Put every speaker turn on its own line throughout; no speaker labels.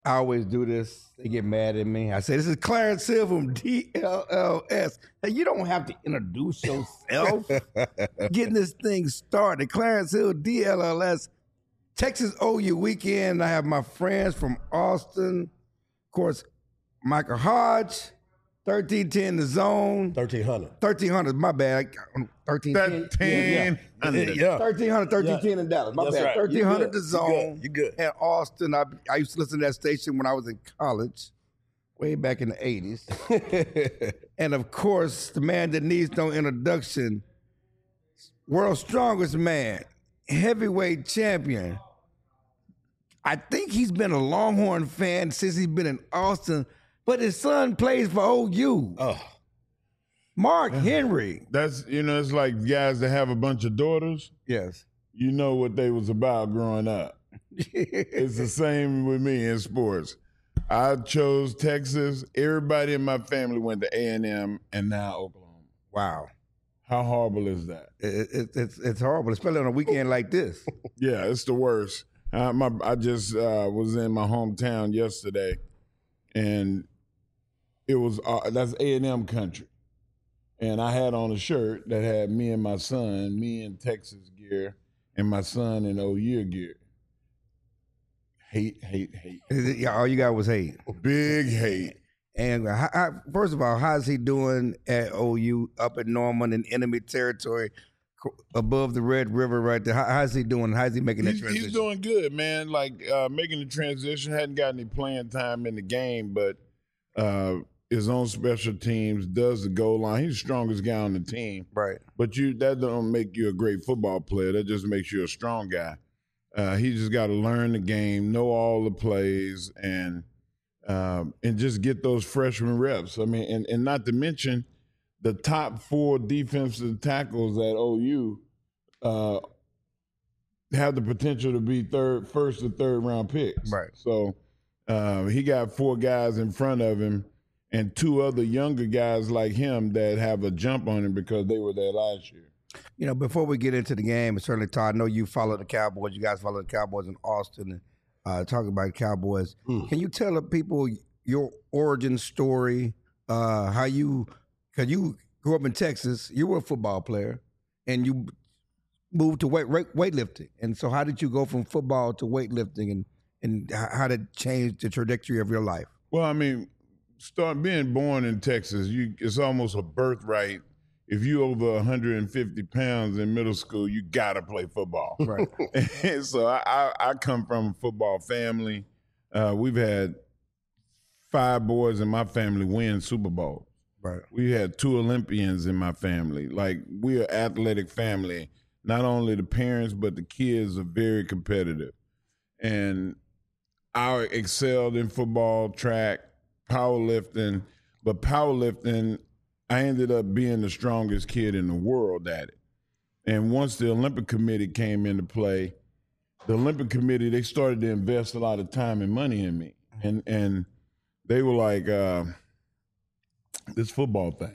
I always do this. They get mad at me. I say, this is Clarence Hill from DLLS. Hey, you don't have to introduce yourself. Getting this thing started. Clarence Hill, DLLS, Texas OU weekend. I have my friends from Austin. Of course, Michael Hodge, 1310 The Zone.
1300.
1300, my bad. 1310.
1300.
Yeah. 1300, 1310 in Dallas. My
That's
bad.
right.
1300 The Zone.
You good.
In Austin. I used to listen to that station when I was in college, way back in the 80s. And of course, the man that needs no introduction, world's strongest man, heavyweight champion. I think he's been a Longhorn fan since he's been in Austin, but his son plays for OU.
Oh,
Mark Henry.
That's it's like guys that have a bunch of daughters.
Yes.
You know what they was about growing up. It's the same with me in sports. I chose Texas. Everybody in my family went to A&M and now Oklahoma.
Wow.
How horrible is that?
It's horrible, especially on a weekend like this.
Yeah, it's the worst. I just was in my hometown yesterday, and it was that's A&M country, and I had on a shirt that had me and my son, me in Texas gear, and my son in OU gear. Hate.
Yeah, all you got was hate.
Big hate.
And first of all, how's he doing at OU up at Norman in enemy territory, above the Red River right there? How's he doing? How's he making that transition?
He's doing good, man. Like making the transition. Hadn't got any playing time in the game, but his own special teams, does the goal line. He's the strongest guy on the team.
Right.
But that don't make you a great football player. That just makes you a strong guy. He just got to learn the game, know all the plays, and just get those freshman reps. I mean, and not to mention the top 4 defensive tackles at OU have the potential to be first or third round picks.
Right.
So he got 4 guys in front of him and 2 other younger guys like him that have a jump on him because they were there last year.
You know, before we get into the game, and certainly, Todd, I know you follow the Cowboys. You guys follow the Cowboys in Austin and talking about the Cowboys. Can you tell the people your origin story, because you grew up in Texas, you were a football player, and moved to weightlifting. And so how did you go from football to weightlifting, and how did it change the trajectory of your life?
Well, I mean, being born in Texas, it's almost a birthright. If you over 150 pounds in middle school, you got to play football.
Right.
And so I come from a football family. We've had 5 boys in my family win Super Bowls.
Right.
We had 2 Olympians in my family. Like, we're an athletic family. Not only the parents, but the kids are very competitive. And I excelled in football, track, powerlifting. But powerlifting, I ended up being the strongest kid in the world at it. And once the Olympic Committee came into play, the Olympic Committee, they started to invest a lot of time and money in me. And they were like, this football thing,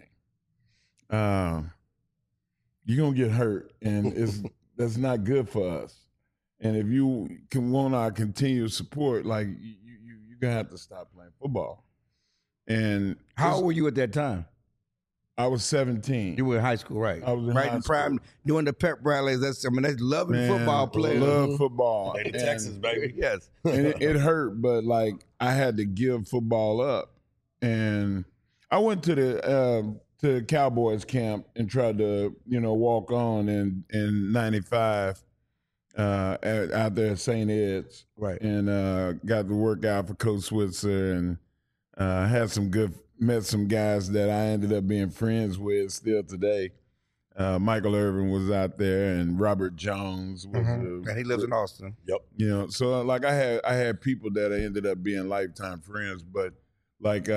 you're going to get hurt, and that's not good for us. And if you want our continued support, like, you're going to have to stop playing football. And
How old were you at that time?
I was 17.
You were in high school, right?
I was in
right
high
in prime, doing the pep rallies. That's loving
Man,
football players.
Love football.
Lady
And-
Texas, baby.
Yes.
and it hurt, but like I had to give football up. And I went to the Cowboys camp and tried to, walk on in '95 out there at St. Ed's.
Right.
And got to work out for Coach Switzer and met some guys that I ended up being friends with still today. Michael Irvin was out there, and Robert Jones was.
And he lives in Austin.
Yep.
So like I had people that I ended up being lifetime friends, but like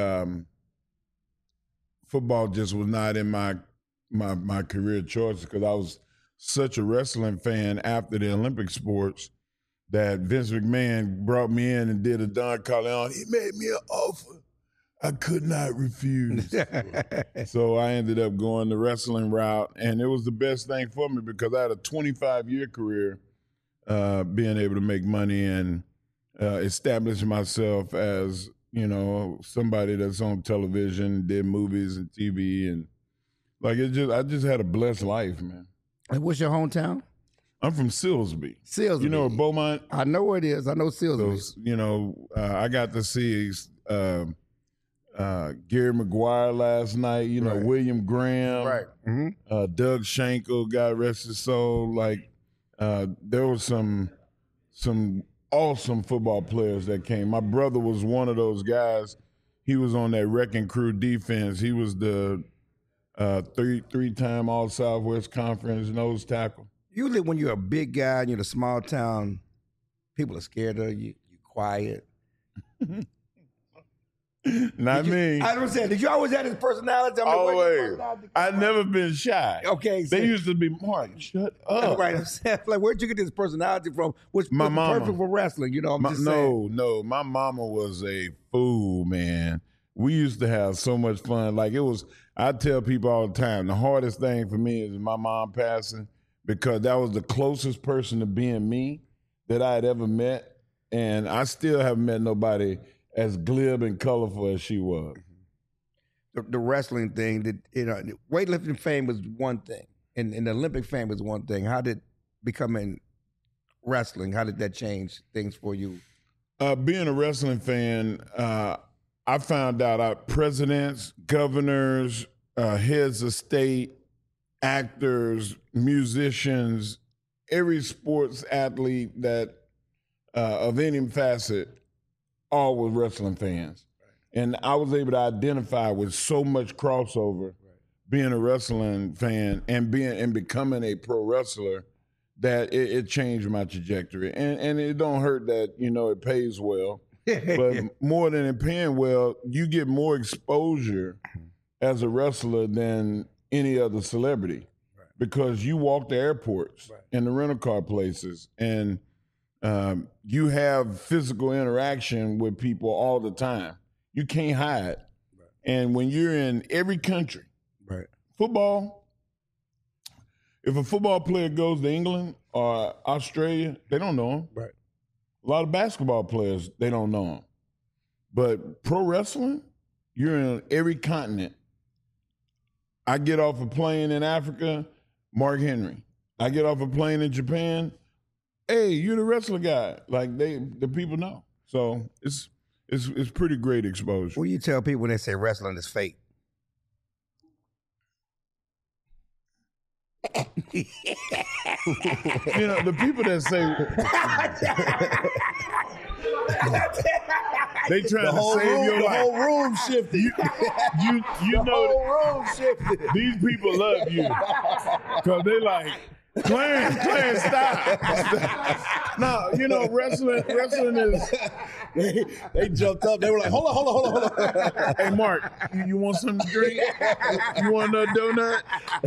football just was not in my career choice because I was such a wrestling fan after the Olympic sports that Vince McMahon brought me in and did a Don Corleone. He made me an offer I could not refuse. So I ended up going the wrestling route, and it was the best thing for me because I had a 25-year career being able to make money and establish myself as, somebody that's on television, did movies and TV, and I just had a blessed life, man.
And what's your hometown?
I'm from Silsbee.
Silsbee.
You know Beaumont?
I know where it is. I know Silsbee.
So, I got to see Gary McGuire last night,
Right.
William Graham,
Right. Mm-hmm.
Doug Schenkel, God rest his soul. There was some awesome football players that came. My brother was one of those guys. He was on that wrecking crew defense. He was the three-time All-Southwest Conference nose tackle.
Usually when you're a big guy and you're in a small town, people are scared of you. You're quiet.
Not me.
I don't say. Did you always have this personality?
Always. I've never been shy.
Okay.
They used to be, Mark, shut up.
Right. I'm saying, where'd you get this personality from? Which
My
was
mama.
perfect for wrestling. I'm just saying.
No. My mama was a fool, man. We used to have so much fun. I tell people all the time, the hardest thing for me is my mom passing, because that was the closest person to being me that I had ever met. And I still haven't met nobody as glib and colorful as she was.
The wrestling thing, weightlifting fame was one thing, and the Olympic fame was one thing. How did becoming wrestling, how did that change things for you?
Being a wrestling fan, I found out presidents, governors, heads of state, actors, musicians, every sports athlete that of any facet, all were wrestling fans. Right. And I was able to identify with so much crossover, being a wrestling fan and becoming a pro wrestler, that it changed my trajectory. And it don't hurt that, it pays well. But more than it paying well, you get more exposure as a wrestler than any other celebrity. Right. Because you walk the airports and the rental car places, and you have physical interaction with people all the time. You can't hide. Right. And when you're in every country, football, if a football player goes to England or Australia, they don't know him. Right. A lot of basketball players, they don't know him. But pro wrestling, you're in every continent. I get off a plane in Africa, Mark Henry. I get off a plane in Japan, hey, you're the wrestler guy. The people know. So it's pretty great exposure.
What do you tell people when they say wrestling is fake?
The people that say they trying to save your life.
The whole room shifted.
You know
whole room shifted.
These people love you because they like, Clarence, stop. No, wrestling is.
They jumped up. They were like, hold on.
Hey, Mark, you want something to drink? You want another donut?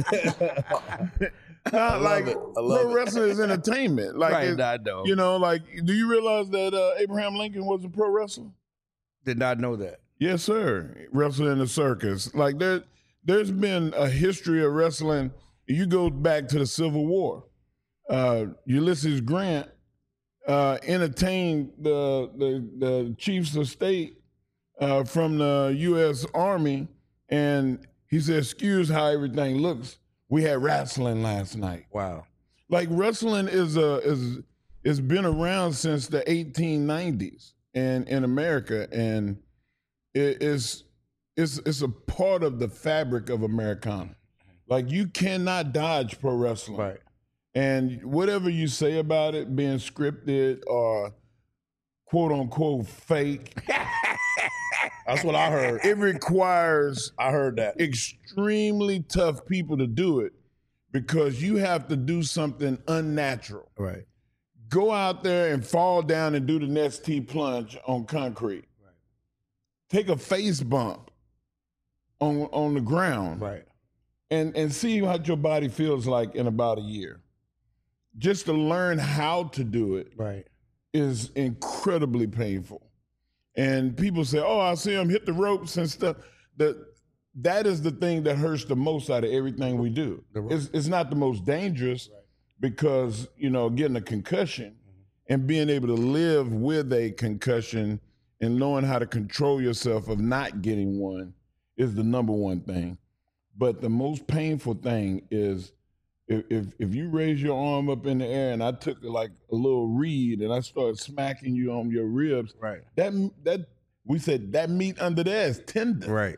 Pro wrestling is entertainment.
I know.
Do you realize that Abraham Lincoln was a pro wrestler?
Did not know that.
Yes, sir. Wrestling in the circus. There's been a history of wrestling. You go back to the Civil War. Ulysses Grant entertained the chiefs of state from the U.S. Army, and he said, "Excuse how everything looks. We had wrestling last night."
Wow!
Wrestling is been around since the 1890s and in America, and it's a part of the fabric of Americana. You cannot dodge pro wrestling.
Right.
And whatever you say about it being scripted or quote unquote fake.
That's what I heard.
It requires
I heard that
extremely tough people to do it, because you have to do something unnatural.
Right.
Go out there and fall down and do the next T plunge on concrete. Right. Take a face bump on the ground.
Right.
And see what your body feels like in about a year. Just to learn how to do it is incredibly painful. And people say, oh, I see them hit the ropes and stuff. That is the thing that hurts the most out of everything we do. It's not the most dangerous because, getting a concussion and being able to live with a concussion and knowing how to control yourself of not getting one is the number one thing. But the most painful thing is if you raise your arm up in the air and I took like a little reed and I started smacking you on your ribs,
Right.
that we said that meat under there is tender.
Right.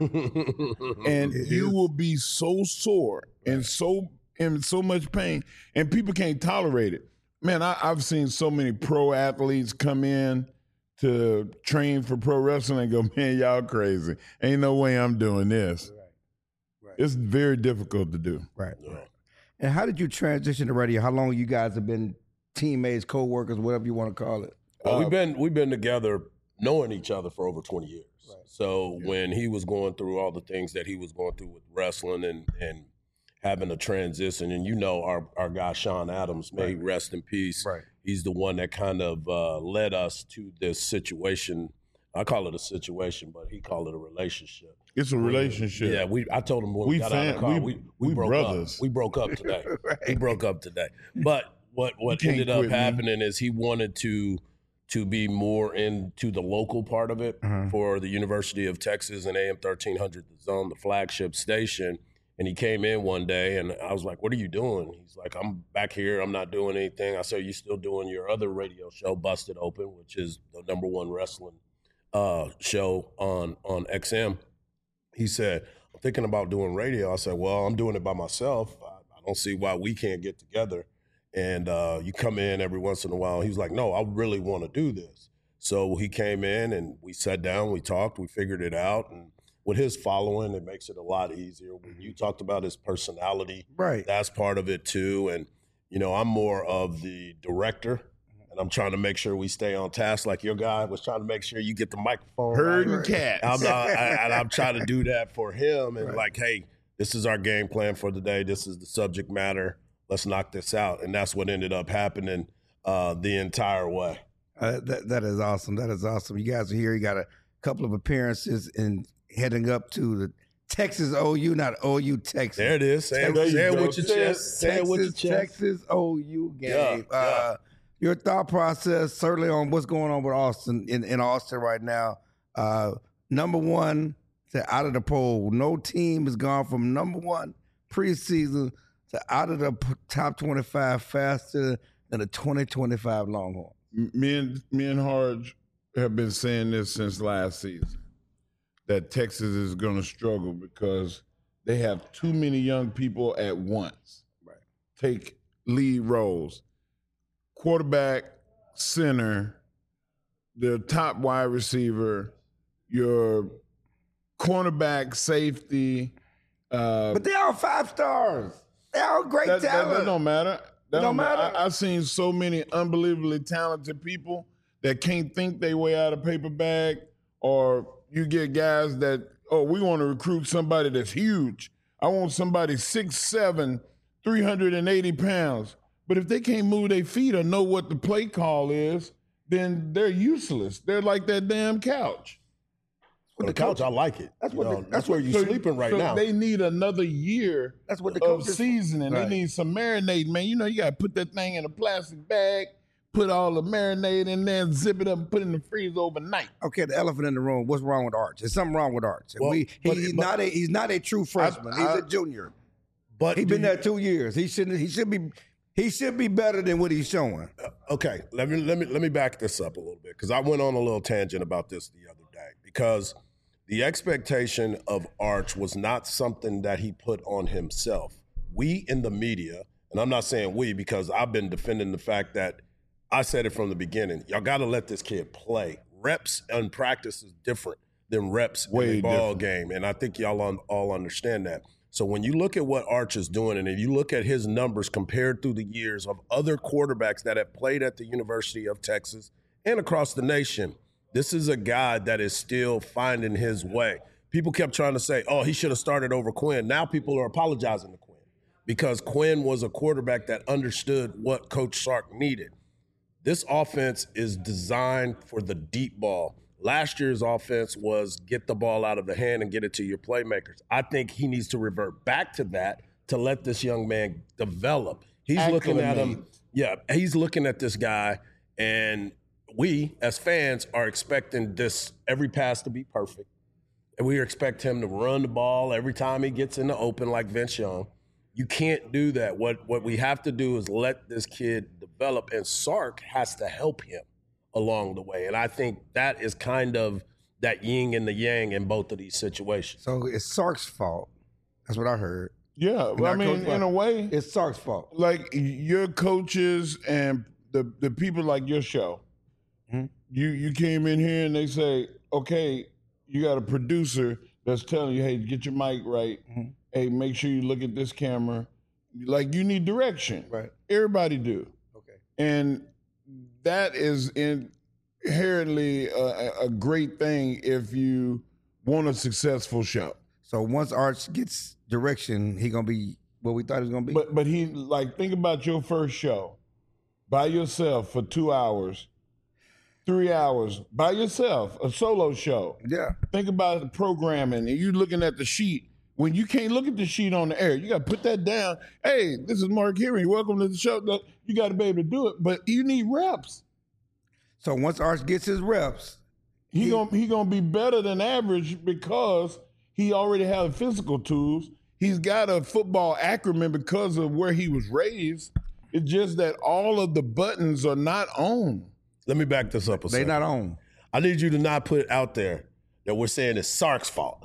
And you will be so sore and so in so much pain, and people can't tolerate it. Man, I've seen so many pro athletes come in to train for pro wrestling and go, man, y'all crazy. Ain't no way I'm doing this. Right. It's very difficult to do.
Right. And how did you transition to radio? How long you guys have been teammates, co-workers, whatever you want to call it?
We've been together knowing each other for over 20 years. Right. So when he was going through all the things that he was going through with wrestling and having a transition, and our guy Sean Adams, may he rest in peace.
Right.
He's the one that kind of led us to this situation. I call it a situation, but he called it a relationship.
It's a relationship.
Yeah, I told him when we got out of the car, we broke
brothers.
up. We broke up today. Right. We broke up today. But what ended up happening is he wanted to be more into the local part of it for the University of Texas and AM 1300 The Zone, the flagship station. And he came in one day, and I was like, what are you doing? He's like, I'm back here. I'm not doing anything. I said, you still doing your other radio show, Busted Open, which is the #1 wrestling show on XM. He said, I'm thinking about doing radio. I said, well, I'm doing it by myself. I don't see why we can't get together. And you come in every once in a while. He was like, no, I really want to do this. So he came in, and we sat down, we talked, we figured it out. And with his following, it makes it a lot easier. When you talked about his personality,
right,
that's part of it too. And, I'm more of the director, and I'm trying to make sure we stay on task. Like your guy was trying to make sure you get the microphone.
Herding cats.
I'm trying to do that for him. And like, hey, this is our game plan for the day. This is the subject matter. Let's knock this out. And that's what ended up happening the entire way.
That is awesome. That is awesome. You guys are here. You got a couple of appearances and heading up to the Texas OU, not OU Texas.
There it is. Say it with your chest. Say it with your chest.
Texas OU game.
Yeah.
Your thought process, certainly on what's going on with Austin in Austin right now. #1 to out of the poll. No team has gone from #1 preseason to out of the top 25 faster than the 2025 Longhorns.
Me and Harge have been saying this since last season, that Texas is going to struggle because they have too many young people at once.
Right.
Take lead roles. Quarterback, center, their top wide receiver, your cornerback, safety.
But they're all 5 stars. They're all great talent.
That don't matter.
That don't matter.
I've seen so many unbelievably talented people that can't think their way out of paper bag, or you get guys that, we want to recruit somebody that's huge. I want somebody 6'7", 380 pounds. But if they can't move their feet or know what the play call is, then they're useless. They're like that damn couch.
On the couch, I like it. That's where you're sleeping right now.
They need another year of seasoning. Right. They need some marinade, man. You got to put that thing in a plastic bag, put all the marinade in there, zip it up, and put it in the freezer overnight.
Okay, the elephant in the room. What's wrong with Arch? There's something wrong with Arch.
Well,
he's not a true freshman. He's a junior. But he's been there 2 years. He should be better than what he's showing.
Okay, let me back this up a little bit, because I went on a little tangent about this the other day, because the expectation of Arch was not something that he put on himself. We in the media, and I'm not saying we because I've been defending the fact that I said it from the beginning. Y'all got to let this kid play. Reps and practice is different than reps in the ball game, and I think y'all all understand that. So when you look at what Arch is doing, and if you look at his numbers compared through the years of other quarterbacks that have played at the University of Texas and across the nation, this is a guy that is still finding his way. People kept trying to say, he should have started over Quinn. Now people are apologizing to Quinn because Quinn was a quarterback that understood what Coach Sark needed. This offense is designed for the deep ball. Last year's offense was get the ball out of the hand and get it to your playmakers. I think he needs to revert back to that to let this young man develop. He's looking at him. Yeah, he's looking at this guy, And we, as fans, are expecting every pass to be perfect. And we expect him to run the ball every time he gets in the open like Vince Young. You can't do that. What we have to do is let this kid develop, and Sark has to help him along the way. And I think that is kind of that yin and the yang in both of these situations.
So it's Sark's fault. That's what I heard.
Yeah, well, I mean, in a way,
it's Sark's fault.
Like your coaches and the people like your show, you came in here and they say, okay, you got a producer that's telling you, hey, get your mic right. Hey, make sure you look at this camera. Like, you need direction.
Right.
Everybody do.
Okay.
And that is inherently a great thing if you want a successful show.
So once Arch gets direction, he gonna be what we thought he was gonna be.
But he, like, think about your first show by yourself for 2 hours, 3 hours by yourself, a solo show.
Yeah.
Think about the programming, and you looking at the sheet. When you can't look at the sheet on the air, you got to put that down. Hey, this is Mark Henry. Welcome to the show. You got to be able to do it, but you need reps.
So once Arch gets his reps,
he gonna be better than average because he already has physical tools. He's got a football acumen because of where he was raised. It's just that all of the buttons are not on.
Let me back this up a second.
they not on.
I need you to not put out there that we're saying it's Sark's fault.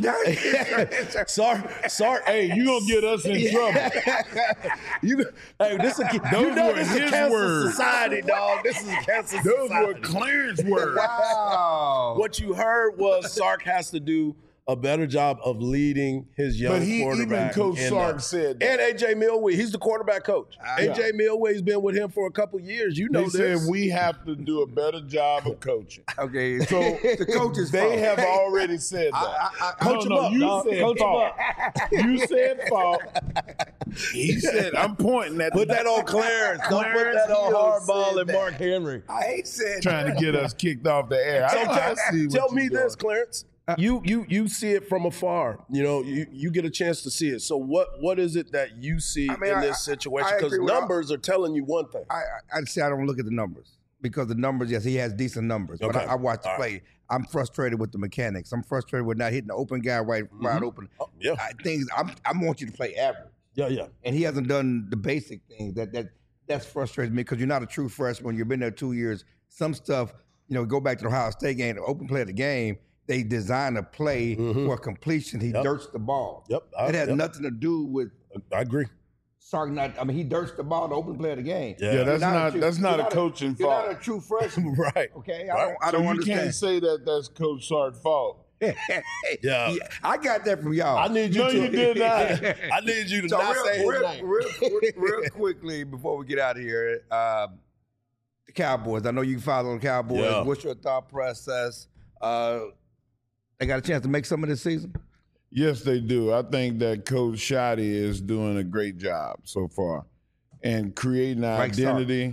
Sark,
Hey, you gonna get us in trouble.
This is a cancer society, dog. This is a cancer society.
Those were Clarence words.
Wow.
What you heard was Sark has to do a better job of leading his young quarterback.
Even Coach Sark said that.
And A.J. Millway, he's the quarterback coach. A.J. Millway's been with him for a couple years. You know
They
this.
said we have to do a better job of coaching.
Okay, so the coaches
They have already said that.
Coach him up,
You
dog.
said
Coach him
fault.
up.
You said fault. He said, I'm pointing at
Put that on Clarence. Don't put
Clarence
that on
Hill
Hardball
said
and
that.
Mark Henry.
I hate saying
trying to get us kicked off the air.
So
I see what
tell me
you're
this,
doing.
Clarence. You see it from afar. You know, you get a chance to see it. So what is it that you see in this situation? Because numbers are telling you one thing.
I'd say I don't look at the numbers because the numbers, yes, he has decent numbers. But
Okay.
I watch the
All
play. I'm frustrated with the mechanics. I'm frustrated with not hitting the open guy wide open.
Oh, yeah.
I want you to play average.
Yeah.
And he hasn't done the basic things that's frustrates me because you're not a true freshman. You've been there 2 years. Some stuff, go back to the Ohio State game, the open play of the game. They design a play for completion. He dirts the ball.
Yep.
It has nothing to do with
I agree.
Sark he dirts the ball, the open play of the game.
Yeah, that's not a coaching
You're
fault.
not a true freshman.
Right.
Okay?
Right.
I don't
You
understand.
can't say that that's Coach Sark's fault.
Yeah.
I got that from y'all.
I need you
No,
to.
you did not.
I need you to
So
not say his name.
real quickly before we get out of here, the Cowboys. I know you follow the Cowboys.
Yeah.
What's your thought process? They got a chance to make some of this season?
Yes, they do. I think that Coach Shoddy is doing a great job so far and creating an identity.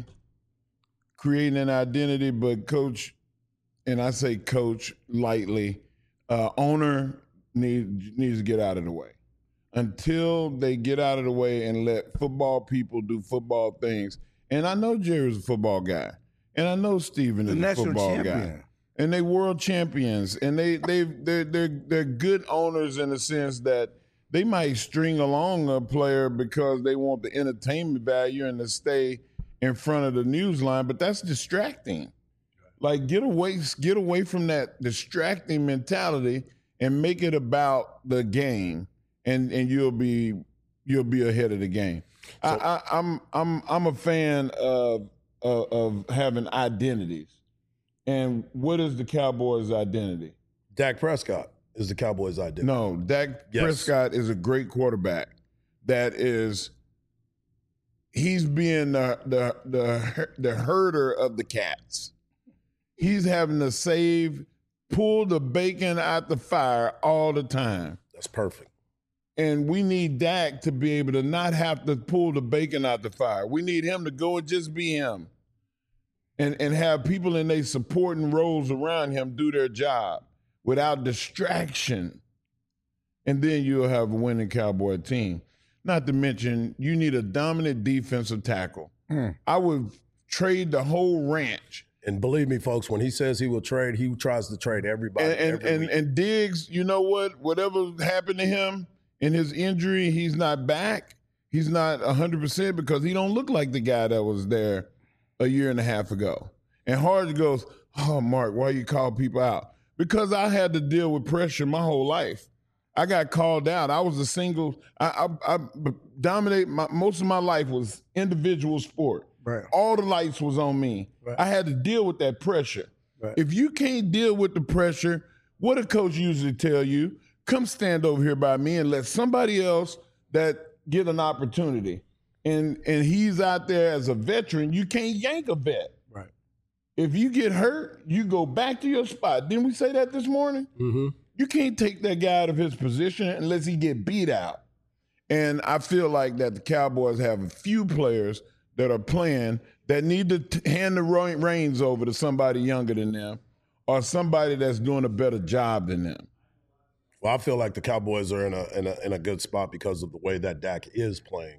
But Coach, and I say Coach lightly, owner needs to get out of the way. Until they get out of the way and let football people do football things. And I know Jerry's a football guy. And I know Steven is a football guy. And they world champions, and they're good owners in the sense that they might string along a player because they want the entertainment value and to stay in front of the news line, but that's distracting. Like get away from that distracting mentality and make it about the game, and you'll be ahead of the game. So, I'm a fan of having identities. And what is the Cowboys' identity?
Dak Prescott is the Cowboys' identity.
No, Dak Prescott is a great quarterback. He's being the herder of the cats. He's having to pull the bacon out the fire all the time.
That's perfect.
And we need Dak to be able to not have to pull the bacon out the fire. We need him to go and just be him. And have people in their supporting roles around him do their job without distraction. And then you'll have a winning Cowboy team. Not to mention, you need a dominant defensive tackle. I would trade the whole ranch
And believe me, folks, when he says he will trade, he tries to trade everybody.
And Diggs, you know what? Whatever happened to him in his injury, he's not back. He's not 100% because he don't look like the guy that was there a year and a half ago. And Harge goes, "Oh, Mark, why you call people out?" Because I had to deal with pressure my whole life. I got called out. I was a single. I dominated. Most of my life was individual sport.
Right.
All the lights was on me.
Right.
I had to deal with that pressure.
Right.
If you can't deal with the pressure, what a coach usually tell you, come stand over here by me and let somebody else that get an opportunity. And he's out there as a veteran. You can't yank a vet.
Right.
If you get hurt, you go back to your spot. Didn't we say that this morning?
Mm-hmm.
You can't take that guy out of his position unless he get beat out. And I feel like that the Cowboys have a few players that are playing that need to hand the reins over to somebody younger than them or somebody that's doing a better job than them.
Well, I feel like the Cowboys are in a good spot because of the way that Dak is playing.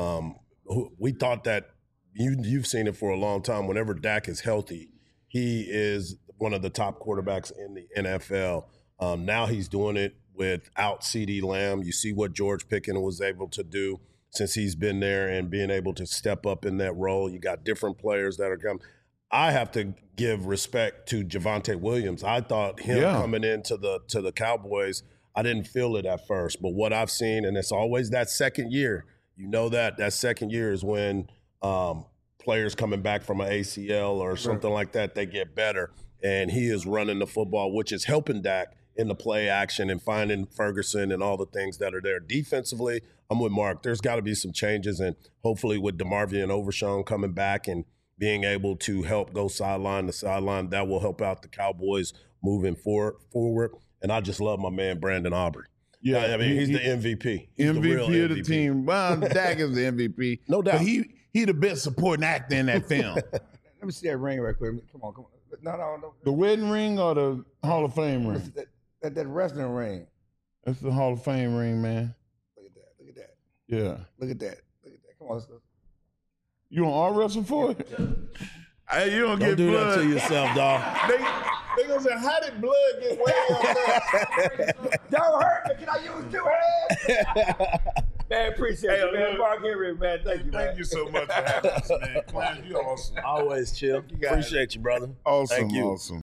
We thought that you've seen it for a long time. Whenever Dak is healthy, he is one of the top quarterbacks in the NFL. Now he's doing it without CeeDee Lamb. You see what George Pickens was able to do since he's been there and being able to step up in that role. You got different players that are coming. I have to give respect to Javonte Williams. I thought him coming into the Cowboys, I didn't feel it at first. But what I've seen, and it's always that second year, you know that second year is when players coming back from an ACL or something like that, they get better. And he is running the football, which is helping Dak in the play action and finding Ferguson and all the things that are there. Defensively, I'm with Mark. There's got to be some changes, and hopefully with DeMarvion Overshown coming back and being able to help go sideline to sideline, that will help out the Cowboys moving forward. And I just love my man Brandon Aubrey. Yeah, I mean, he's the MVP. He's
MVP
the real
of the team. Well, Dak is the MVP.
No doubt.
But he the best supporting actor in that film.
Let me see that ring right quick. Come on. No.
The wedding ring or the Hall of Fame ring?
That wrestling ring.
That's the Hall of Fame ring, man.
Look at that.
Yeah.
Look at that. Come on, let's go.
You want arm wrestle for it? Hey, you don't get
do
blood.
that to yourself, dog.
They gonna say, how did blood get way up there?
Don't hurt me. Can I use 2 hands? Man, appreciate it, man. Mark Henry, man. Thank you, man.
Thank you so much for having us, man. Clan, you awesome.
Always chill. Appreciate you, brother.
Awesome,
Thank you.
Awesome.